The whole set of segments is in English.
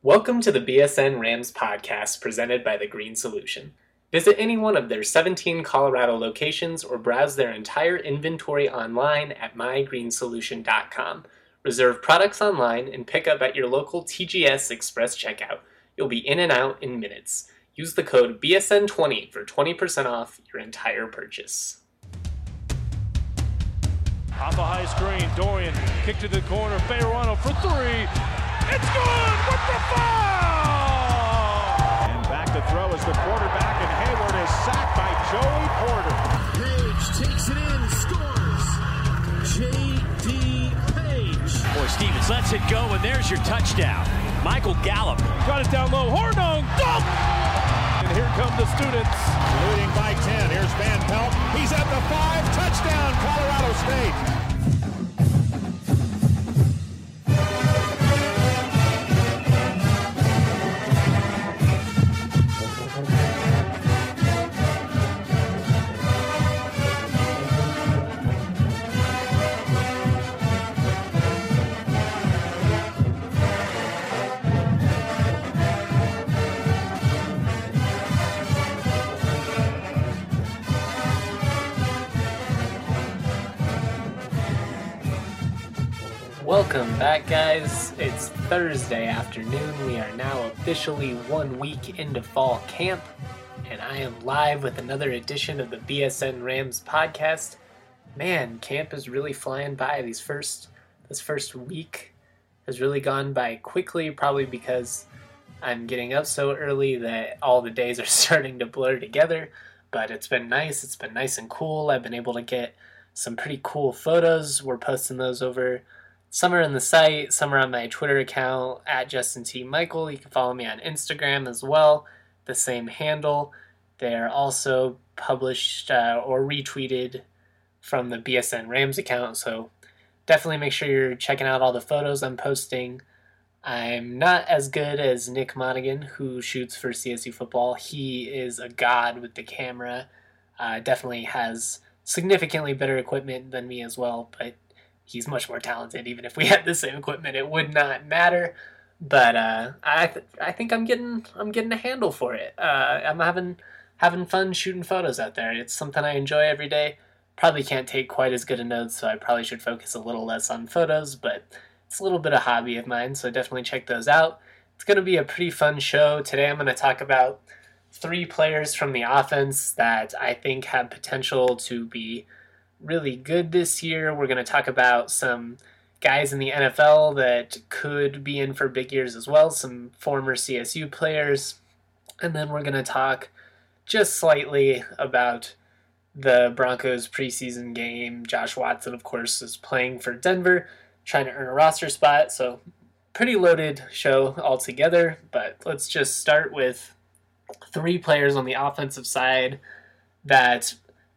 Welcome to the BSN Rams podcast presented by The Green Solution. Visit any one of their 17 Colorado locations or browse their entire inventory online at mygreensolution.com. Reserve products online and pick up at your local TGS Express checkout. You'll be in and out in minutes. Use the code BSN20 for 20% off your entire purchase. Off a high screen, Dorian, kick to the corner, Bejarano for three. It's good with the foul! And back to throw is the quarterback, and Hayward is sacked by Joey Porter. Page takes it in, scores. J.D. Page. Boy, Stevens lets it go, and there's your touchdown. Michael Gallup. Got it down low, Hornung, dunk! And here come the students. Leading by 10, here's Van Pelt. He's at the 5, touchdown, Colorado State. Welcome back, guys. It's Thursday afternoon. We are now officially 1 week into fall camp, and I am live with another edition of the BSN Rams podcast. Man, camp is really flying by. This first week has really gone by quickly, probably because I'm getting up so early that all the days are starting to blur together, but it's been nice. It's been nice and cool. I've been able to get some pretty cool photos. We're posting those over. Some are on the site, some are on my Twitter account, at Justin T. Michael. You can follow me on Instagram as well, the same handle. They're also published or retweeted from the BSN Rams account, so definitely make sure you're checking out all the photos I'm posting. I'm not as good as Nick Monaghan, who shoots for CSU football. He is a god with the camera, definitely has significantly better equipment than me as well, but he's much more talented. Even if we had the same equipment, it would not matter. But I think I'm getting a handle for it. I'm having fun shooting photos out there. It's something I enjoy every day. Probably can't take quite as good a notes, so I probably should focus a little less on photos. But it's a little bit of hobby of mine, so definitely check those out. It's going to be a pretty fun show. Today I'm going to talk about 3 players from the offense that I think have potential to be really good this year. We're going to talk about some guys in the NFL that could be in for big years as well, some former CSU players, and then we're going to talk just slightly about the Broncos preseason game. Josh Watson, of course, is playing for Denver, trying to earn a roster spot, so pretty loaded show altogether, but let's just start with 3 players on the offensive side that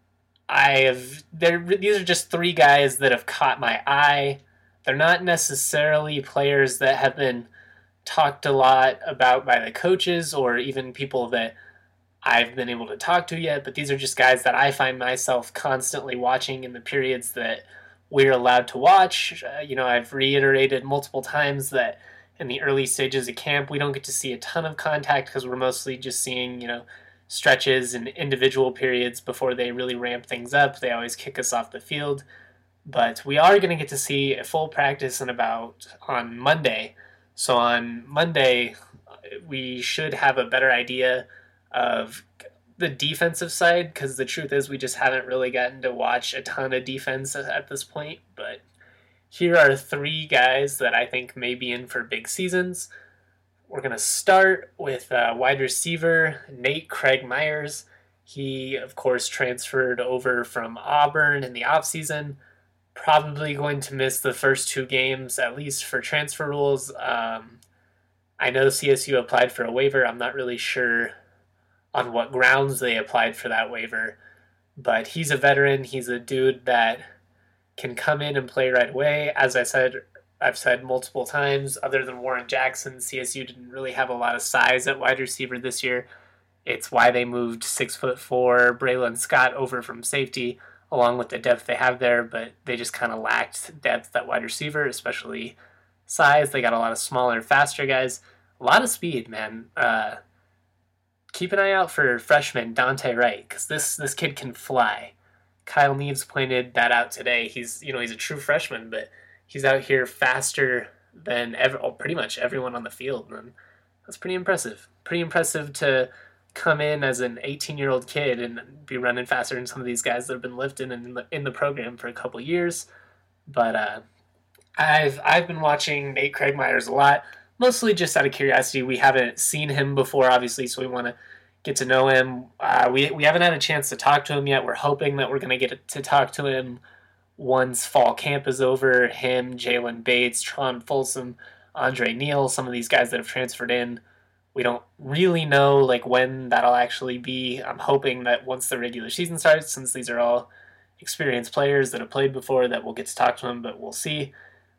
these are just 3 guys that have caught my eye. They're not necessarily players that have been talked a lot about by the coaches or even people that I've been able to talk to yet, but these are just guys that I find myself constantly watching in the periods that we're allowed to watch. I've reiterated multiple times that in the early stages of camp, we don't get to see a ton of contact because we're mostly just seeing, stretches and individual periods before they really ramp things up. They always kick us off the field. But we are going to get to see a full practice on Monday. So on Monday, we should have a better idea of the defensive side, because the truth is we just haven't really gotten to watch a ton of defense at this point. But here are 3 guys that I think may be in for big seasons. We're going to start with wide receiver Nate Craig Myers. He, of course, transferred over from Auburn in the offseason. Probably going to miss the first 2 games, at least for transfer rules. I know CSU applied for a waiver. I'm not really sure on what grounds they applied for that waiver. But he's a veteran. He's a dude that can come in and play right away. As I've said multiple times, other than Warren Jackson, CSU didn't really have a lot of size at wide receiver this year. It's why they moved 6'4" Braylon Scott over from safety, along with the depth they have there, but they just kind of lacked depth at wide receiver, especially size. They got a lot of smaller, faster guys. A lot of speed, man. Keep an eye out for freshman Dante Wright, because this kid can fly. Kyle Neves pointed that out today. He's a true freshman, but he's out here faster than pretty much everyone on the field, and that's pretty impressive. Pretty impressive to come in as an 18-year-old kid and be running faster than some of these guys that have been lifting in the program for a couple years. But I've been watching Nate Craig Myers a lot, mostly just out of curiosity. We haven't seen him before, obviously, so we want to get to know him. We haven't had a chance to talk to him yet. We're hoping that we're going to get to talk to him once fall camp is over. Him, Jalen Bates, Tron Folsom, Andre Neal, some of these guys that have transferred in. We don't really know when that'll actually be. I'm hoping that once the regular season starts, since these are all experienced players that have played before, that we'll get to talk to him, but we'll see.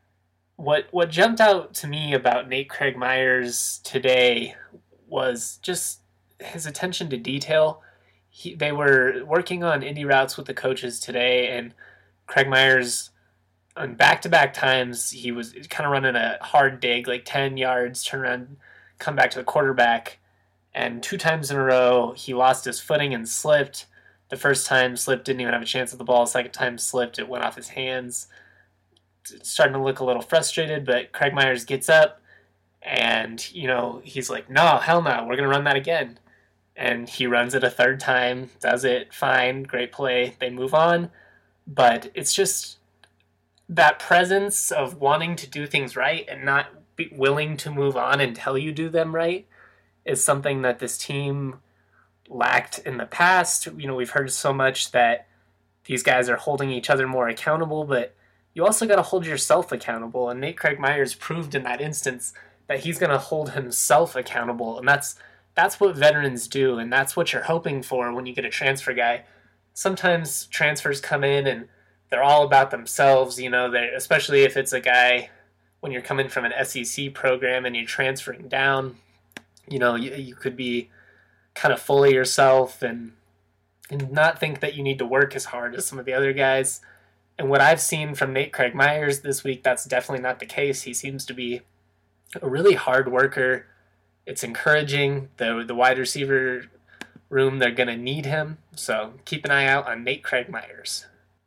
What jumped out to me about Nate Craig Myers today was just his attention to detail. They were working on indie routes with the coaches today, and Craig Myers, on back-to-back times, he was kind of running a hard dig, 10 yards, turn around, come back to the quarterback, and 2 times in a row he lost his footing and slipped. The first time slipped, didn't even have a chance at the ball. Second time slipped, it went off his hands. Starting to look a little frustrated, but Craig Myers gets up and he's like, no, hell no, we're gonna run that again. And he runs it a third time, does it fine, great play, they move on. But it's just that presence of wanting to do things right and not be willing to move on until you do them right is something that this team lacked in the past. We've heard so much that these guys are holding each other more accountable, but you also got to hold yourself accountable. And Nate Craig Myers proved in that instance that he's going to hold himself accountable. And that's what veterans do, and that's what you're hoping for when you get a transfer guy. Sometimes transfers come in and they're all about themselves, especially if it's a guy when you're coming from an SEC program and you're transferring down, you could be kind of full of yourself and not think that you need to work as hard as some of the other guys. And what I've seen from Nate Craig Myers this week, that's definitely not the case. He seems to be a really hard worker. It's encouraging. The wide receiver room, they're going to need him. So keep an eye out on Nate Craig Myers.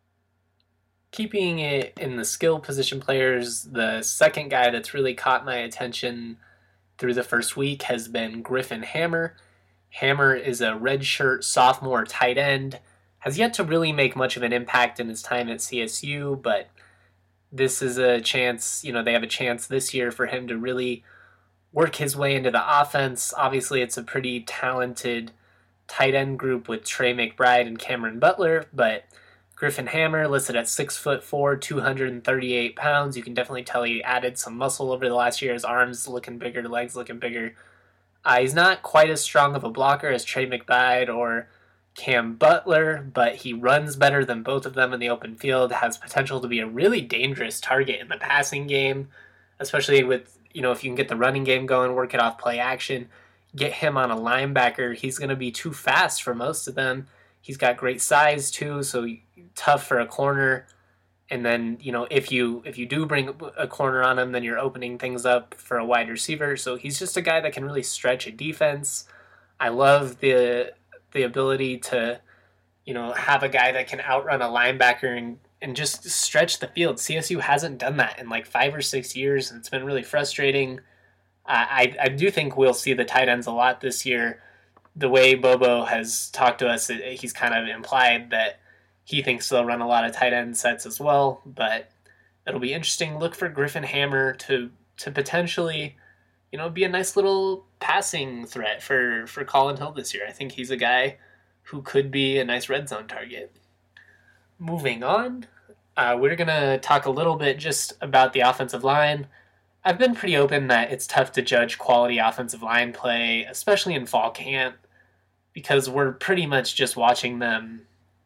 Keeping it in the skill position players, the second guy that's really caught my attention through the first week has been Griffin Hammer. Hammer is a redshirt sophomore tight end. Has yet to really make much of an impact in his time at CSU, but this is a chance, they have a chance this year for him to really work his way into the offense. Obviously, it's a pretty talented tight end group with Trey McBride and Cameron Butler, but Griffin Hammer listed at 6'4", 238 pounds. You can definitely tell he added some muscle over the last year. His arms looking bigger, legs looking bigger. He's not quite as strong of a blocker as Trey McBride or Cam Butler, but he runs better than both of them in the open field, has potential to be a really dangerous target in the passing game, especially with, if you can get the running game going, work it off play action, get him on a linebacker. He's going to be too fast for most of them. He's got great size too, so tough for a corner. And then, if you do bring a corner on him, then you're opening things up for a wide receiver. So he's just a guy that can really stretch a defense. I love the ability to, have a guy that can outrun a linebacker and just stretch the field. CSU hasn't done that in 5 or 6 years, and it's been really frustrating. I do think we'll see the tight ends a lot this year. The way Bobo has talked to us, he's kind of implied that he thinks they'll run a lot of tight end sets as well, but it'll be interesting. Look for Griffin Hammer to potentially, be a nice little passing threat for Colin Hill this year. I think he's a guy who could be a nice red zone target. Moving on, we're going to talk a little bit just about the offensive line. I've been pretty open that it's tough to judge quality offensive line play, especially in fall camp, because we're pretty much just watching them,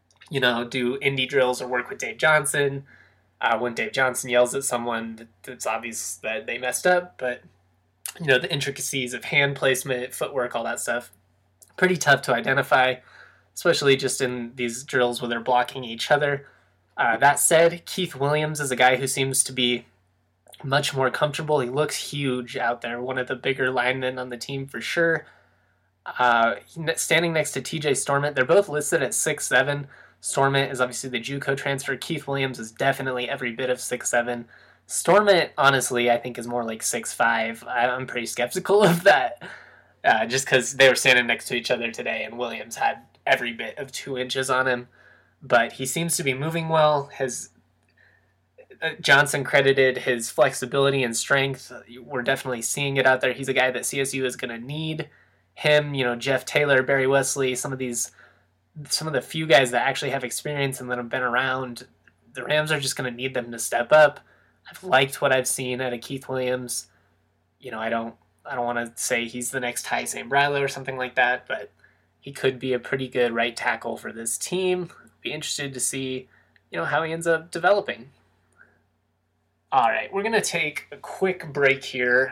do indie drills or work with Dave Johnson. When Dave Johnson yells at someone, it's obvious that they messed up, but, the intricacies of hand placement, footwork, all that stuff, pretty tough to identify, especially just in these drills where they're blocking each other. That said, Keith Williams is a guy who seems to be much more comfortable. He looks huge out there, one of the bigger linemen on the team for sure. Standing next to TJ Stormont, they're both listed at 6'7". Stormont is obviously the JUCO transfer. Keith Williams is definitely every bit of 6'7". Stormont, honestly, I think is more like 6'5". I'm pretty skeptical of that, just because they were standing next to each other today, and Williams had every bit of 2 inches on him. But he seems to be moving well. Johnson credited his flexibility and strength. We're definitely seeing it out there. He's a guy that CSU is going to need. Him, Jeff Taylor, Barry Wesley, some of the few guys that actually have experience and that have been around, the Rams are just going to need them to step up. I've liked what I've seen out of Keith Williams. I don't want to say he's the next Ty St. Bradley or something like that, but he could be a pretty good right tackle for this team. Be interested to see, how he ends up developing. All right, we're going to take a quick break here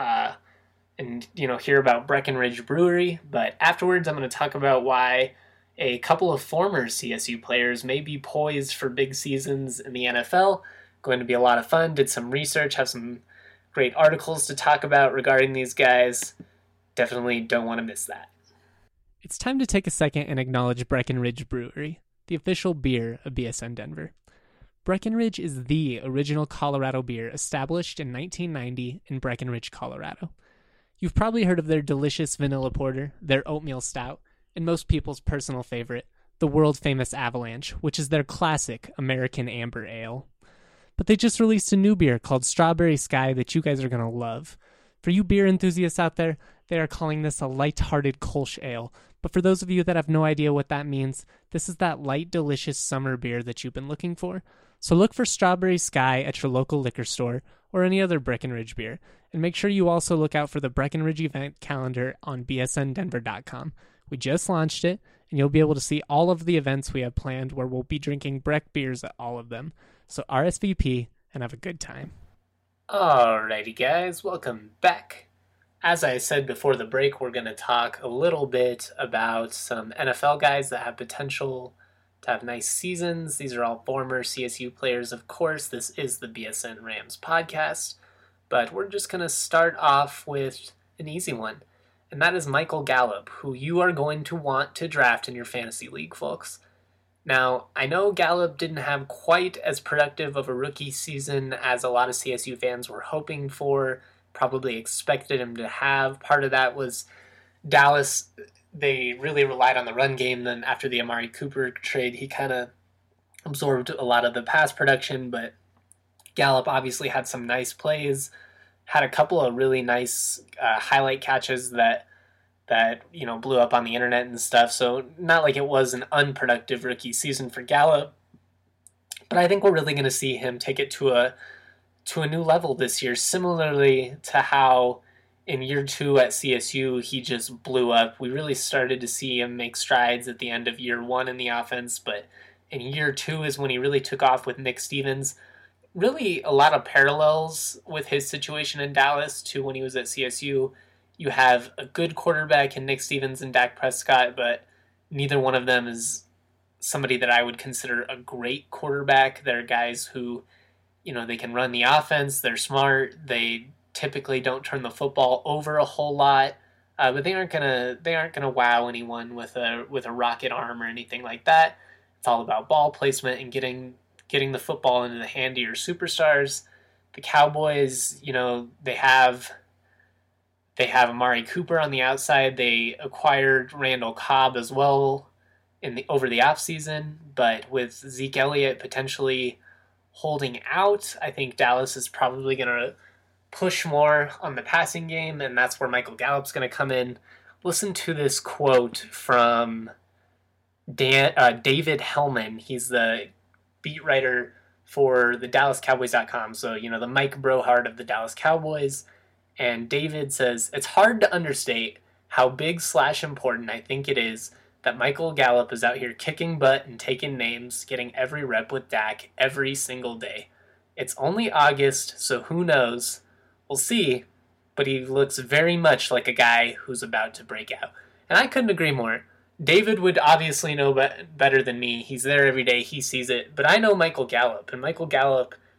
and, hear about Breckenridge Brewery. But afterwards, I'm going to talk about why a couple of former CSU players may be poised for big seasons in the NFL. Going to be a lot of fun. Did some research, have some great articles to talk about regarding these guys. Definitely don't want to miss that. It's time to take a second and acknowledge Breckenridge Brewery, the official beer of BSN Denver. Breckenridge is the original Colorado beer established in 1990 in Breckenridge, Colorado. You've probably heard of their delicious vanilla porter, their oatmeal stout, and most people's personal favorite, the world-famous Avalanche, which is their classic American Amber Ale. But they just released a new beer called Strawberry Sky that you guys are going to love. For you beer enthusiasts out there, they are calling this a light-hearted Kolsch ale. But for those of you that have no idea what that means, this is that light, delicious summer beer that you've been looking for. So look for Strawberry Sky at your local liquor store or any other Breckenridge beer. And make sure you also look out for the Breckenridge event calendar on bsndenver.com. We just launched it, and you'll be able to see all of the events we have planned where we'll be drinking Breck beers at all of them. So RSVP and have a good time. Alrighty guys, welcome back. As I said before the break, we're going to talk a little bit about some NFL guys that have potential to have nice seasons. These are all former CSU players, of course. This is the BSN Rams podcast. But we're just going to start off with an easy one. And that is Michael Gallup, who you are going to want to draft in your fantasy league, folks. Now, I know Gallup didn't have quite as productive of a rookie season as a lot of CSU fans were hoping for, probably expected him to have. Part of that was Dallas, they really relied on the run game. Then after the Amari Cooper trade, he kind of absorbed a lot of the pass production, but Gallup obviously had some nice plays, had a couple of really nice highlight catches that blew up on the internet and stuff. So not like it was an unproductive rookie season for Gallup, but I think we're really going to see him take it to a new level this year, similarly to how in year 2 at CSU he just blew up. We really started to see him make strides at the end of year 1 in the offense, but in year 2 is when he really took off with Nick Stevens. Really a lot of parallels with his situation in Dallas to when he was at CSU. You have a good quarterback in Nick Stevens and Dak Prescott, but neither one of them is somebody that I would consider a great quarterback. They're guys who, they can run the offense. They're smart. They typically don't turn the football over a whole lot, but they aren't gonna wow anyone with a rocket arm or anything like that. It's all about ball placement and getting the football into the hand of your superstars. The Cowboys, they have Amari Cooper on the outside. They acquired Randall Cobb as well over the offseason, but with Zeke Elliott potentially holding out, I think Dallas is probably going to push more on the passing game, and that's where Michael Gallup's going to come in. Listen to this quote from David Hellman. He's the beat writer for the DallasCowboys.com, so, the Mike Brohart of the Dallas Cowboys. And David says, "It's hard to understate how big/important I think it is that Michael Gallup is out here kicking butt and taking names, getting every rep with Dak every single day. It's only August, so who knows? We'll see, but he looks very much like a guy who's about to break out." And I couldn't agree more. David would obviously know better than me. He's there every day. He sees it. But I know Michael Gallup, and Michael Gallup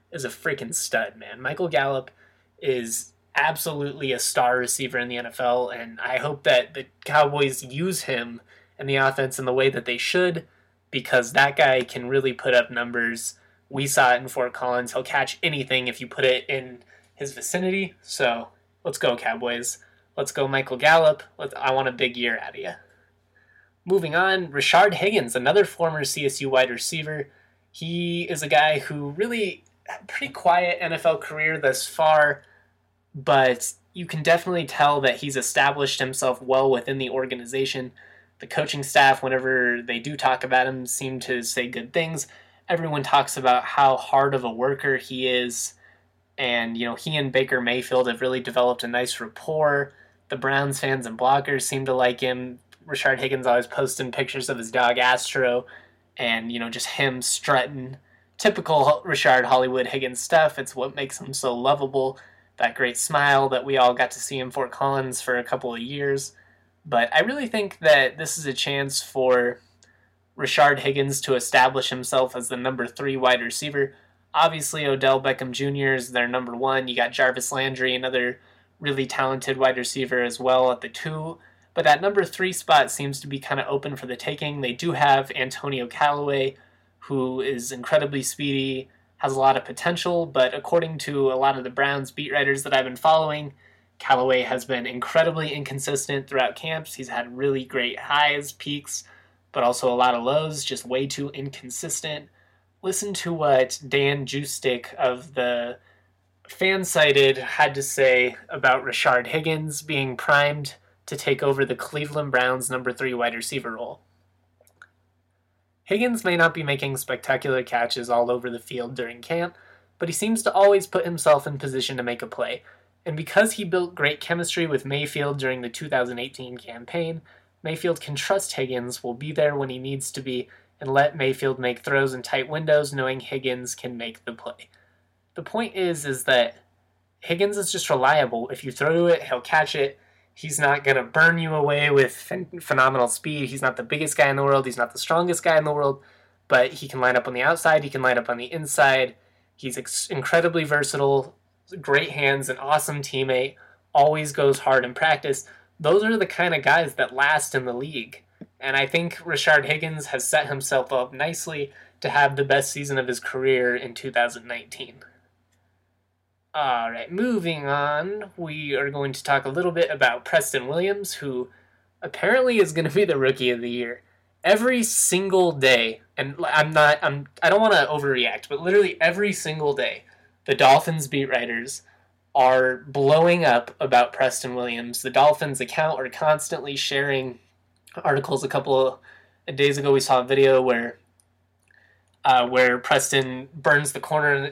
is a freaking stud, man. Michael Gallup is absolutely a star receiver in the NFL, and I hope that the Cowboys use him in the offense in the way that they should, because that guy can really put up numbers. We saw it in Fort Collins. He'll catch anything if you put it in his vicinity. So let's go, Cowboys. Let's go, Michael Gallup. I want a big year out of you. Moving on, Rashard Higgins, another former CSU wide receiver. He is a guy who really had a pretty quiet NFL career thus far, but you can definitely tell that he's established himself well within the organization. The coaching staff, whenever they do talk about him, seem to say good things. Everyone talks about how hard of a worker he is, and he and Baker Mayfield have really developed a nice rapport. The Browns fans and bloggers seem to like him. Rashard Higgins always posting pictures of his dog Astro, and just him strutting. Typical Rashard Hollywood Higgins stuff. It's what makes him so lovable. That great smile that we all got to see in Fort Collins for a couple of years. But I really think that this is a chance for Rashard Higgins to establish himself as the number 3 wide receiver. Obviously, Odell Beckham Jr. is their number 1. You got Jarvis Landry, another really talented wide receiver as well at the 2. But that number 3 spot seems to be kind of open for the taking. They do have Antonio Callaway, who is incredibly speedy, has a lot of potential, but according to a lot of the Browns beat writers that I've been following, Callaway has been incredibly inconsistent throughout camps. He's had really great highs, peaks, but also a lot of lows, just way too inconsistent. Listen to what Dan Justick of the Fansided had to say about Rashard Higgins being primed to take over the Cleveland Browns number 3 wide receiver role. Higgins may not be making spectacular catches all over the field during camp, but he seems to always put himself in position to make a play. And because he built great chemistry with Mayfield during the 2018 campaign, Mayfield can trust Higgins will be there when he needs to be and let Mayfield make throws in tight windows knowing Higgins can make the play. The point is that Higgins is just reliable. If you throw to it, he'll catch it. He's not going to burn you away with phenomenal speed. He's not the biggest guy in the world. He's not the strongest guy in the world. But he can line up on the outside. He can line up on the inside. He's incredibly versatile, great hands, an awesome teammate, always goes hard in practice. Those are the kind of guys that last in the league. And I think Rashard Higgins has set himself up nicely to have the best season of his career in 2019. Alright, moving on, we are going to talk a little bit about Preston Williams, who apparently is going to be the Rookie of the Year. Every single day, and I don't want to overreact, but literally every single day, the Dolphins beat writers are blowing up about Preston Williams. The Dolphins account are constantly sharing articles. A couple of days ago, we saw a video where Preston burns the cornerback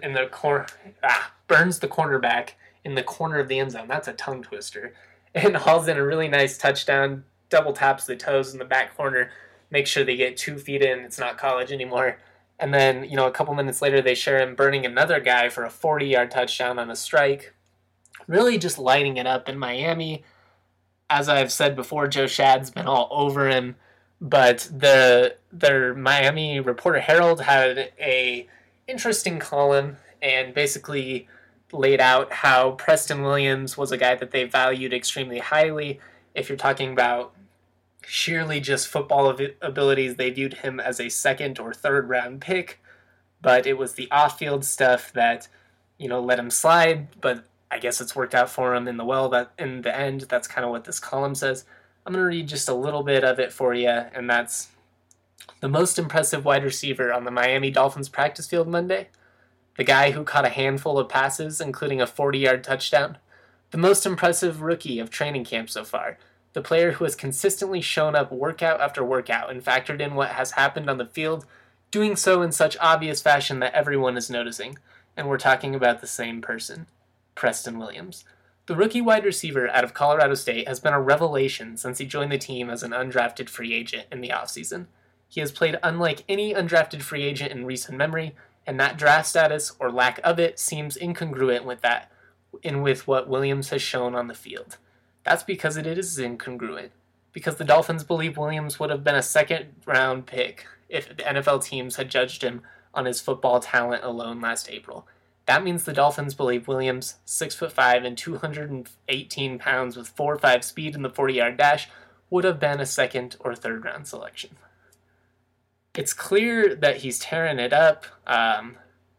in the corner of the end zone. That's a tongue twister. And hauls in a really nice touchdown, double taps the toes in the back corner, make sure they get 2 feet in. It's not college anymore. And then, a couple minutes later, they share him burning another guy for a 40-yard touchdown on a strike. Really just lighting it up in Miami. As I've said before, Joe Shad's been all over him. But their Miami Reporter Herald had a interesting column and basically laid out how Preston Williams was a guy that they valued extremely highly. If you're talking about sheerly just football abilities, they viewed him as a 2nd or 3rd round pick, but it was the off-field stuff that, let him slide, but I guess it's worked out for him in the end. That's kind of what this column says. I'm going to read just a little bit of it for you, and that's: the most impressive wide receiver on the Miami Dolphins practice field Monday, the guy who caught a handful of passes, including a 40-yard touchdown, the most impressive rookie of training camp so far, the player who has consistently shown up workout after workout and factored in what has happened on the field, doing so in such obvious fashion that everyone is noticing. And we're talking about the same person, Preston Williams. The rookie wide receiver out of Colorado State has been a revelation since he joined the team as an undrafted free agent in the offseason. He has played unlike any undrafted free agent in recent memory, and that draft status, or lack of it, seems incongruent with that, and with what Williams has shown on the field. That's because it is incongruent. Because the Dolphins believe Williams would have been a 2nd-round pick if the NFL teams had judged him on his football talent alone last April. That means the Dolphins believe Williams, 6'5" and 218 pounds with 4.5 speed in the 40-yard dash, would have been a second or third round selection. It's clear that he's tearing it up. I'm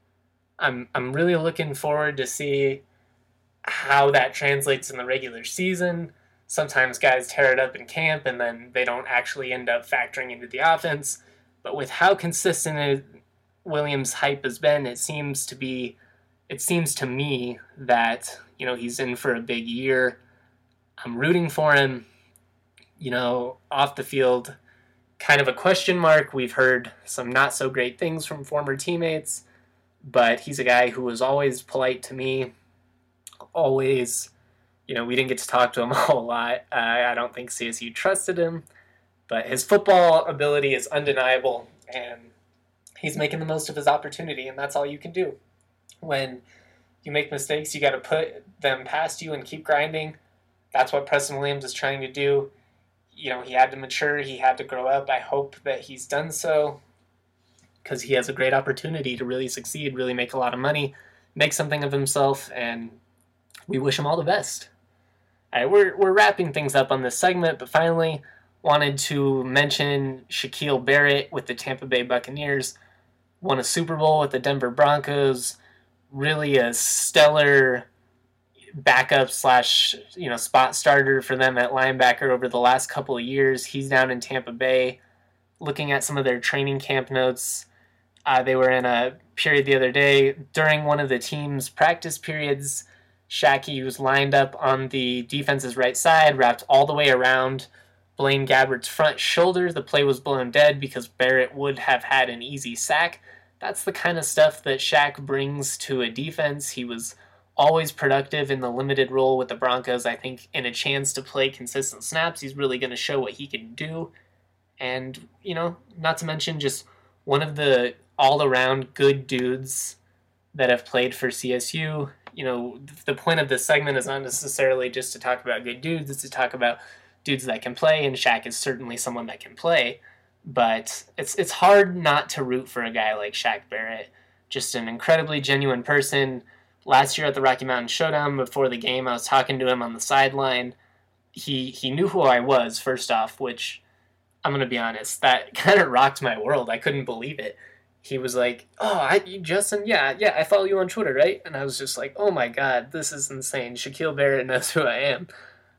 really looking forward to see how that translates in the regular season. Sometimes guys tear it up in camp and then they don't actually end up factoring into the offense. But with how consistent Williams' hype has been, it seems to me that, he's in for a big year. I'm rooting for him. Off the field, kind of a question mark. We've heard some not so great things from former teammates, but he's a guy who was always polite to me. Always, we didn't get to talk to him a whole lot. I don't think CSU trusted him, but his football ability is undeniable, and he's making the most of his opportunity, and that's all you can do. When you make mistakes, you got to put them past you and keep grinding. That's what Preston Williams is trying to do. He had to mature, he had to grow up. I hope that he's done so because he has a great opportunity to really succeed, really make a lot of money, make something of himself, and we wish him all the best. All right, we're wrapping things up on this segment, but finally wanted to mention Shaquille Barrett with the Tampa Bay Buccaneers. Won a Super Bowl with the Denver Broncos. Really a stellar backup / spot starter for them at linebacker over the last couple of years. He's down in Tampa Bay. Looking at some of their training camp notes, they were in a period the other day. During one of the team's practice periods, Shaqy was lined up on the defense's right side, wrapped all the way around Blaine Gabbert's front shoulder. The play was blown dead because Barrett would have had an easy sack. That's the kind of stuff that Shaq brings to a defense. He was always productive in the limited role with the Broncos. I think in a chance to play consistent snaps, he's really going to show what he can do. And, not to mention just one of the all-around good dudes that have played for CSU. The point of this segment is not necessarily just to talk about good dudes, it's to talk about dudes that can play, and Shaq is certainly someone that can play. But it's hard not to root for a guy like Shaq Barrett. Just an incredibly genuine person. Last year at the Rocky Mountain Showdown, before the game, I was talking to him on the sideline. He knew who I was, first off, which, I'm going to be honest, that kind of rocked my world. I couldn't believe it. He was like, Justin, yeah, I follow you on Twitter, right? And I was just like, oh my God, this is insane. Shaquille Barrett knows who I am.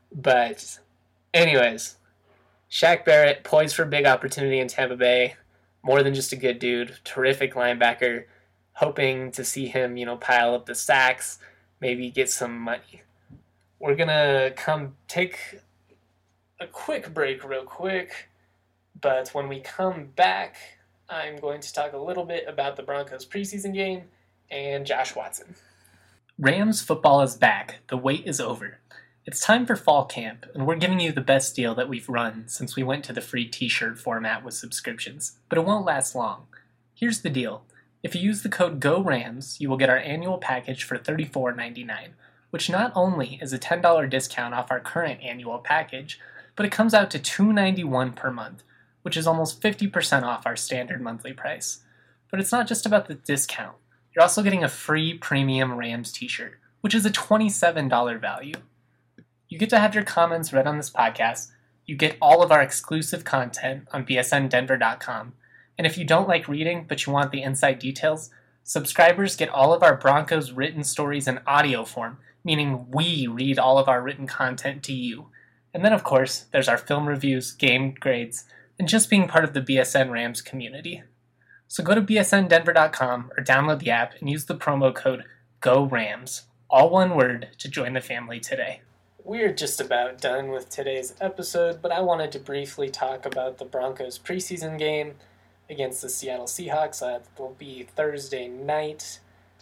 But anyways, Shaq Barrett, poised for a big opportunity in Tampa Bay. More than just a good dude. Terrific linebacker. Hoping to see him, pile up the sacks, maybe get some money. We're going to come take a quick break real quick. But when we come back, I'm going to talk a little bit about the Broncos preseason game and Josh Watson. Rams football is back. The wait is over. It's time for fall camp, and we're giving you the best deal that we've run since we went to the free t-shirt format with subscriptions, but it won't last long. Here's the deal. If you use the code GORAMS, you will get our annual package for $34.99, which not only is a $10 discount off our current annual package, but it comes out to $291 per month, which is almost 50% off our standard monthly price. But it's not just about the discount. You're also getting a free premium Rams t-shirt, which is a $27 value. You get to have your comments read on this podcast. You get all of our exclusive content on bsndenver.com. And if you don't like reading, but you want the inside details, subscribers get all of our Broncos written stories in audio form, meaning we read all of our written content to you. And then, of course, there's our film reviews, game grades, and just being part of the BSN Rams community. So go to bsndenver.com or download the app and use the promo code GORAMS, all one word, to join the family today. We're just about done with today's episode, but I wanted to briefly talk about the Broncos preseason game against the Seattle Seahawks. That will be Thursday night.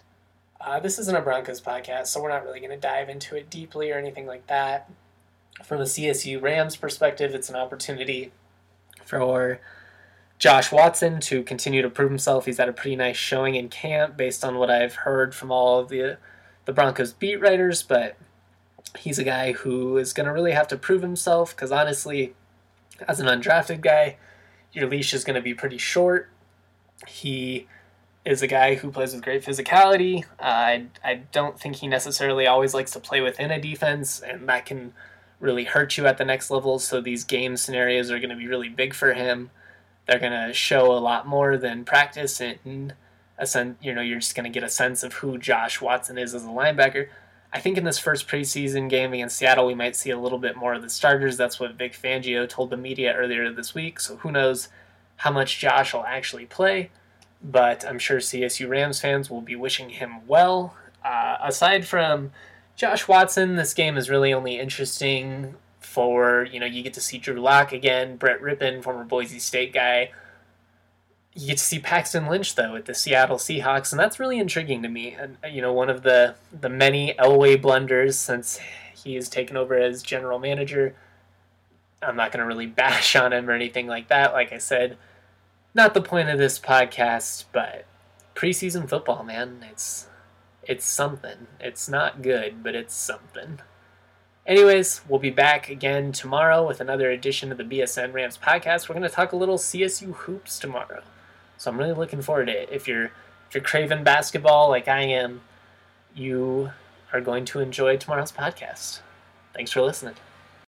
This isn't a Broncos podcast, so we're not really going to dive into it deeply or anything like that. From a CSU Rams perspective, it's an opportunity for Josh Watson to continue to prove himself. He's had a pretty nice showing in camp based on what I've heard from all of the Broncos beat writers, but he's a guy who is going to really have to prove himself because honestly, as an undrafted guy, your leash is going to be pretty short. He is a guy who plays with great physicality. I don't think he necessarily always likes to play within a defense, and that can really hurt you at the next level. So these game scenarios are going to be really big for him. They're going to show a lot more than practice, and you're just going to get a sense of who Josh Watson is as a linebacker. I think in this first preseason game against Seattle, we might see a little bit more of the starters. That's what Vic Fangio told the media earlier this week. So who knows how much Josh will actually play. But I'm sure CSU Rams fans will be wishing him well. Aside from Josh Watson, this game is really only interesting for, you get to see Drew Lock again, Brett Rippon, former Boise State guy. You get to see Paxton Lynch, though, at the Seattle Seahawks, and that's really intriguing to me. And, one of the many Elway blunders since he has taken over as general manager. I'm not going to really bash on him or anything like that. Like I said, not the point of this podcast, but preseason football, man, it's something. It's not good, but it's something. Anyways, we'll be back again tomorrow with another edition of the BSN Rams podcast. We're going to talk a little CSU hoops tomorrow. So I'm really looking forward to it. If you're craving basketball like I am, you are going to enjoy tomorrow's podcast. Thanks for listening.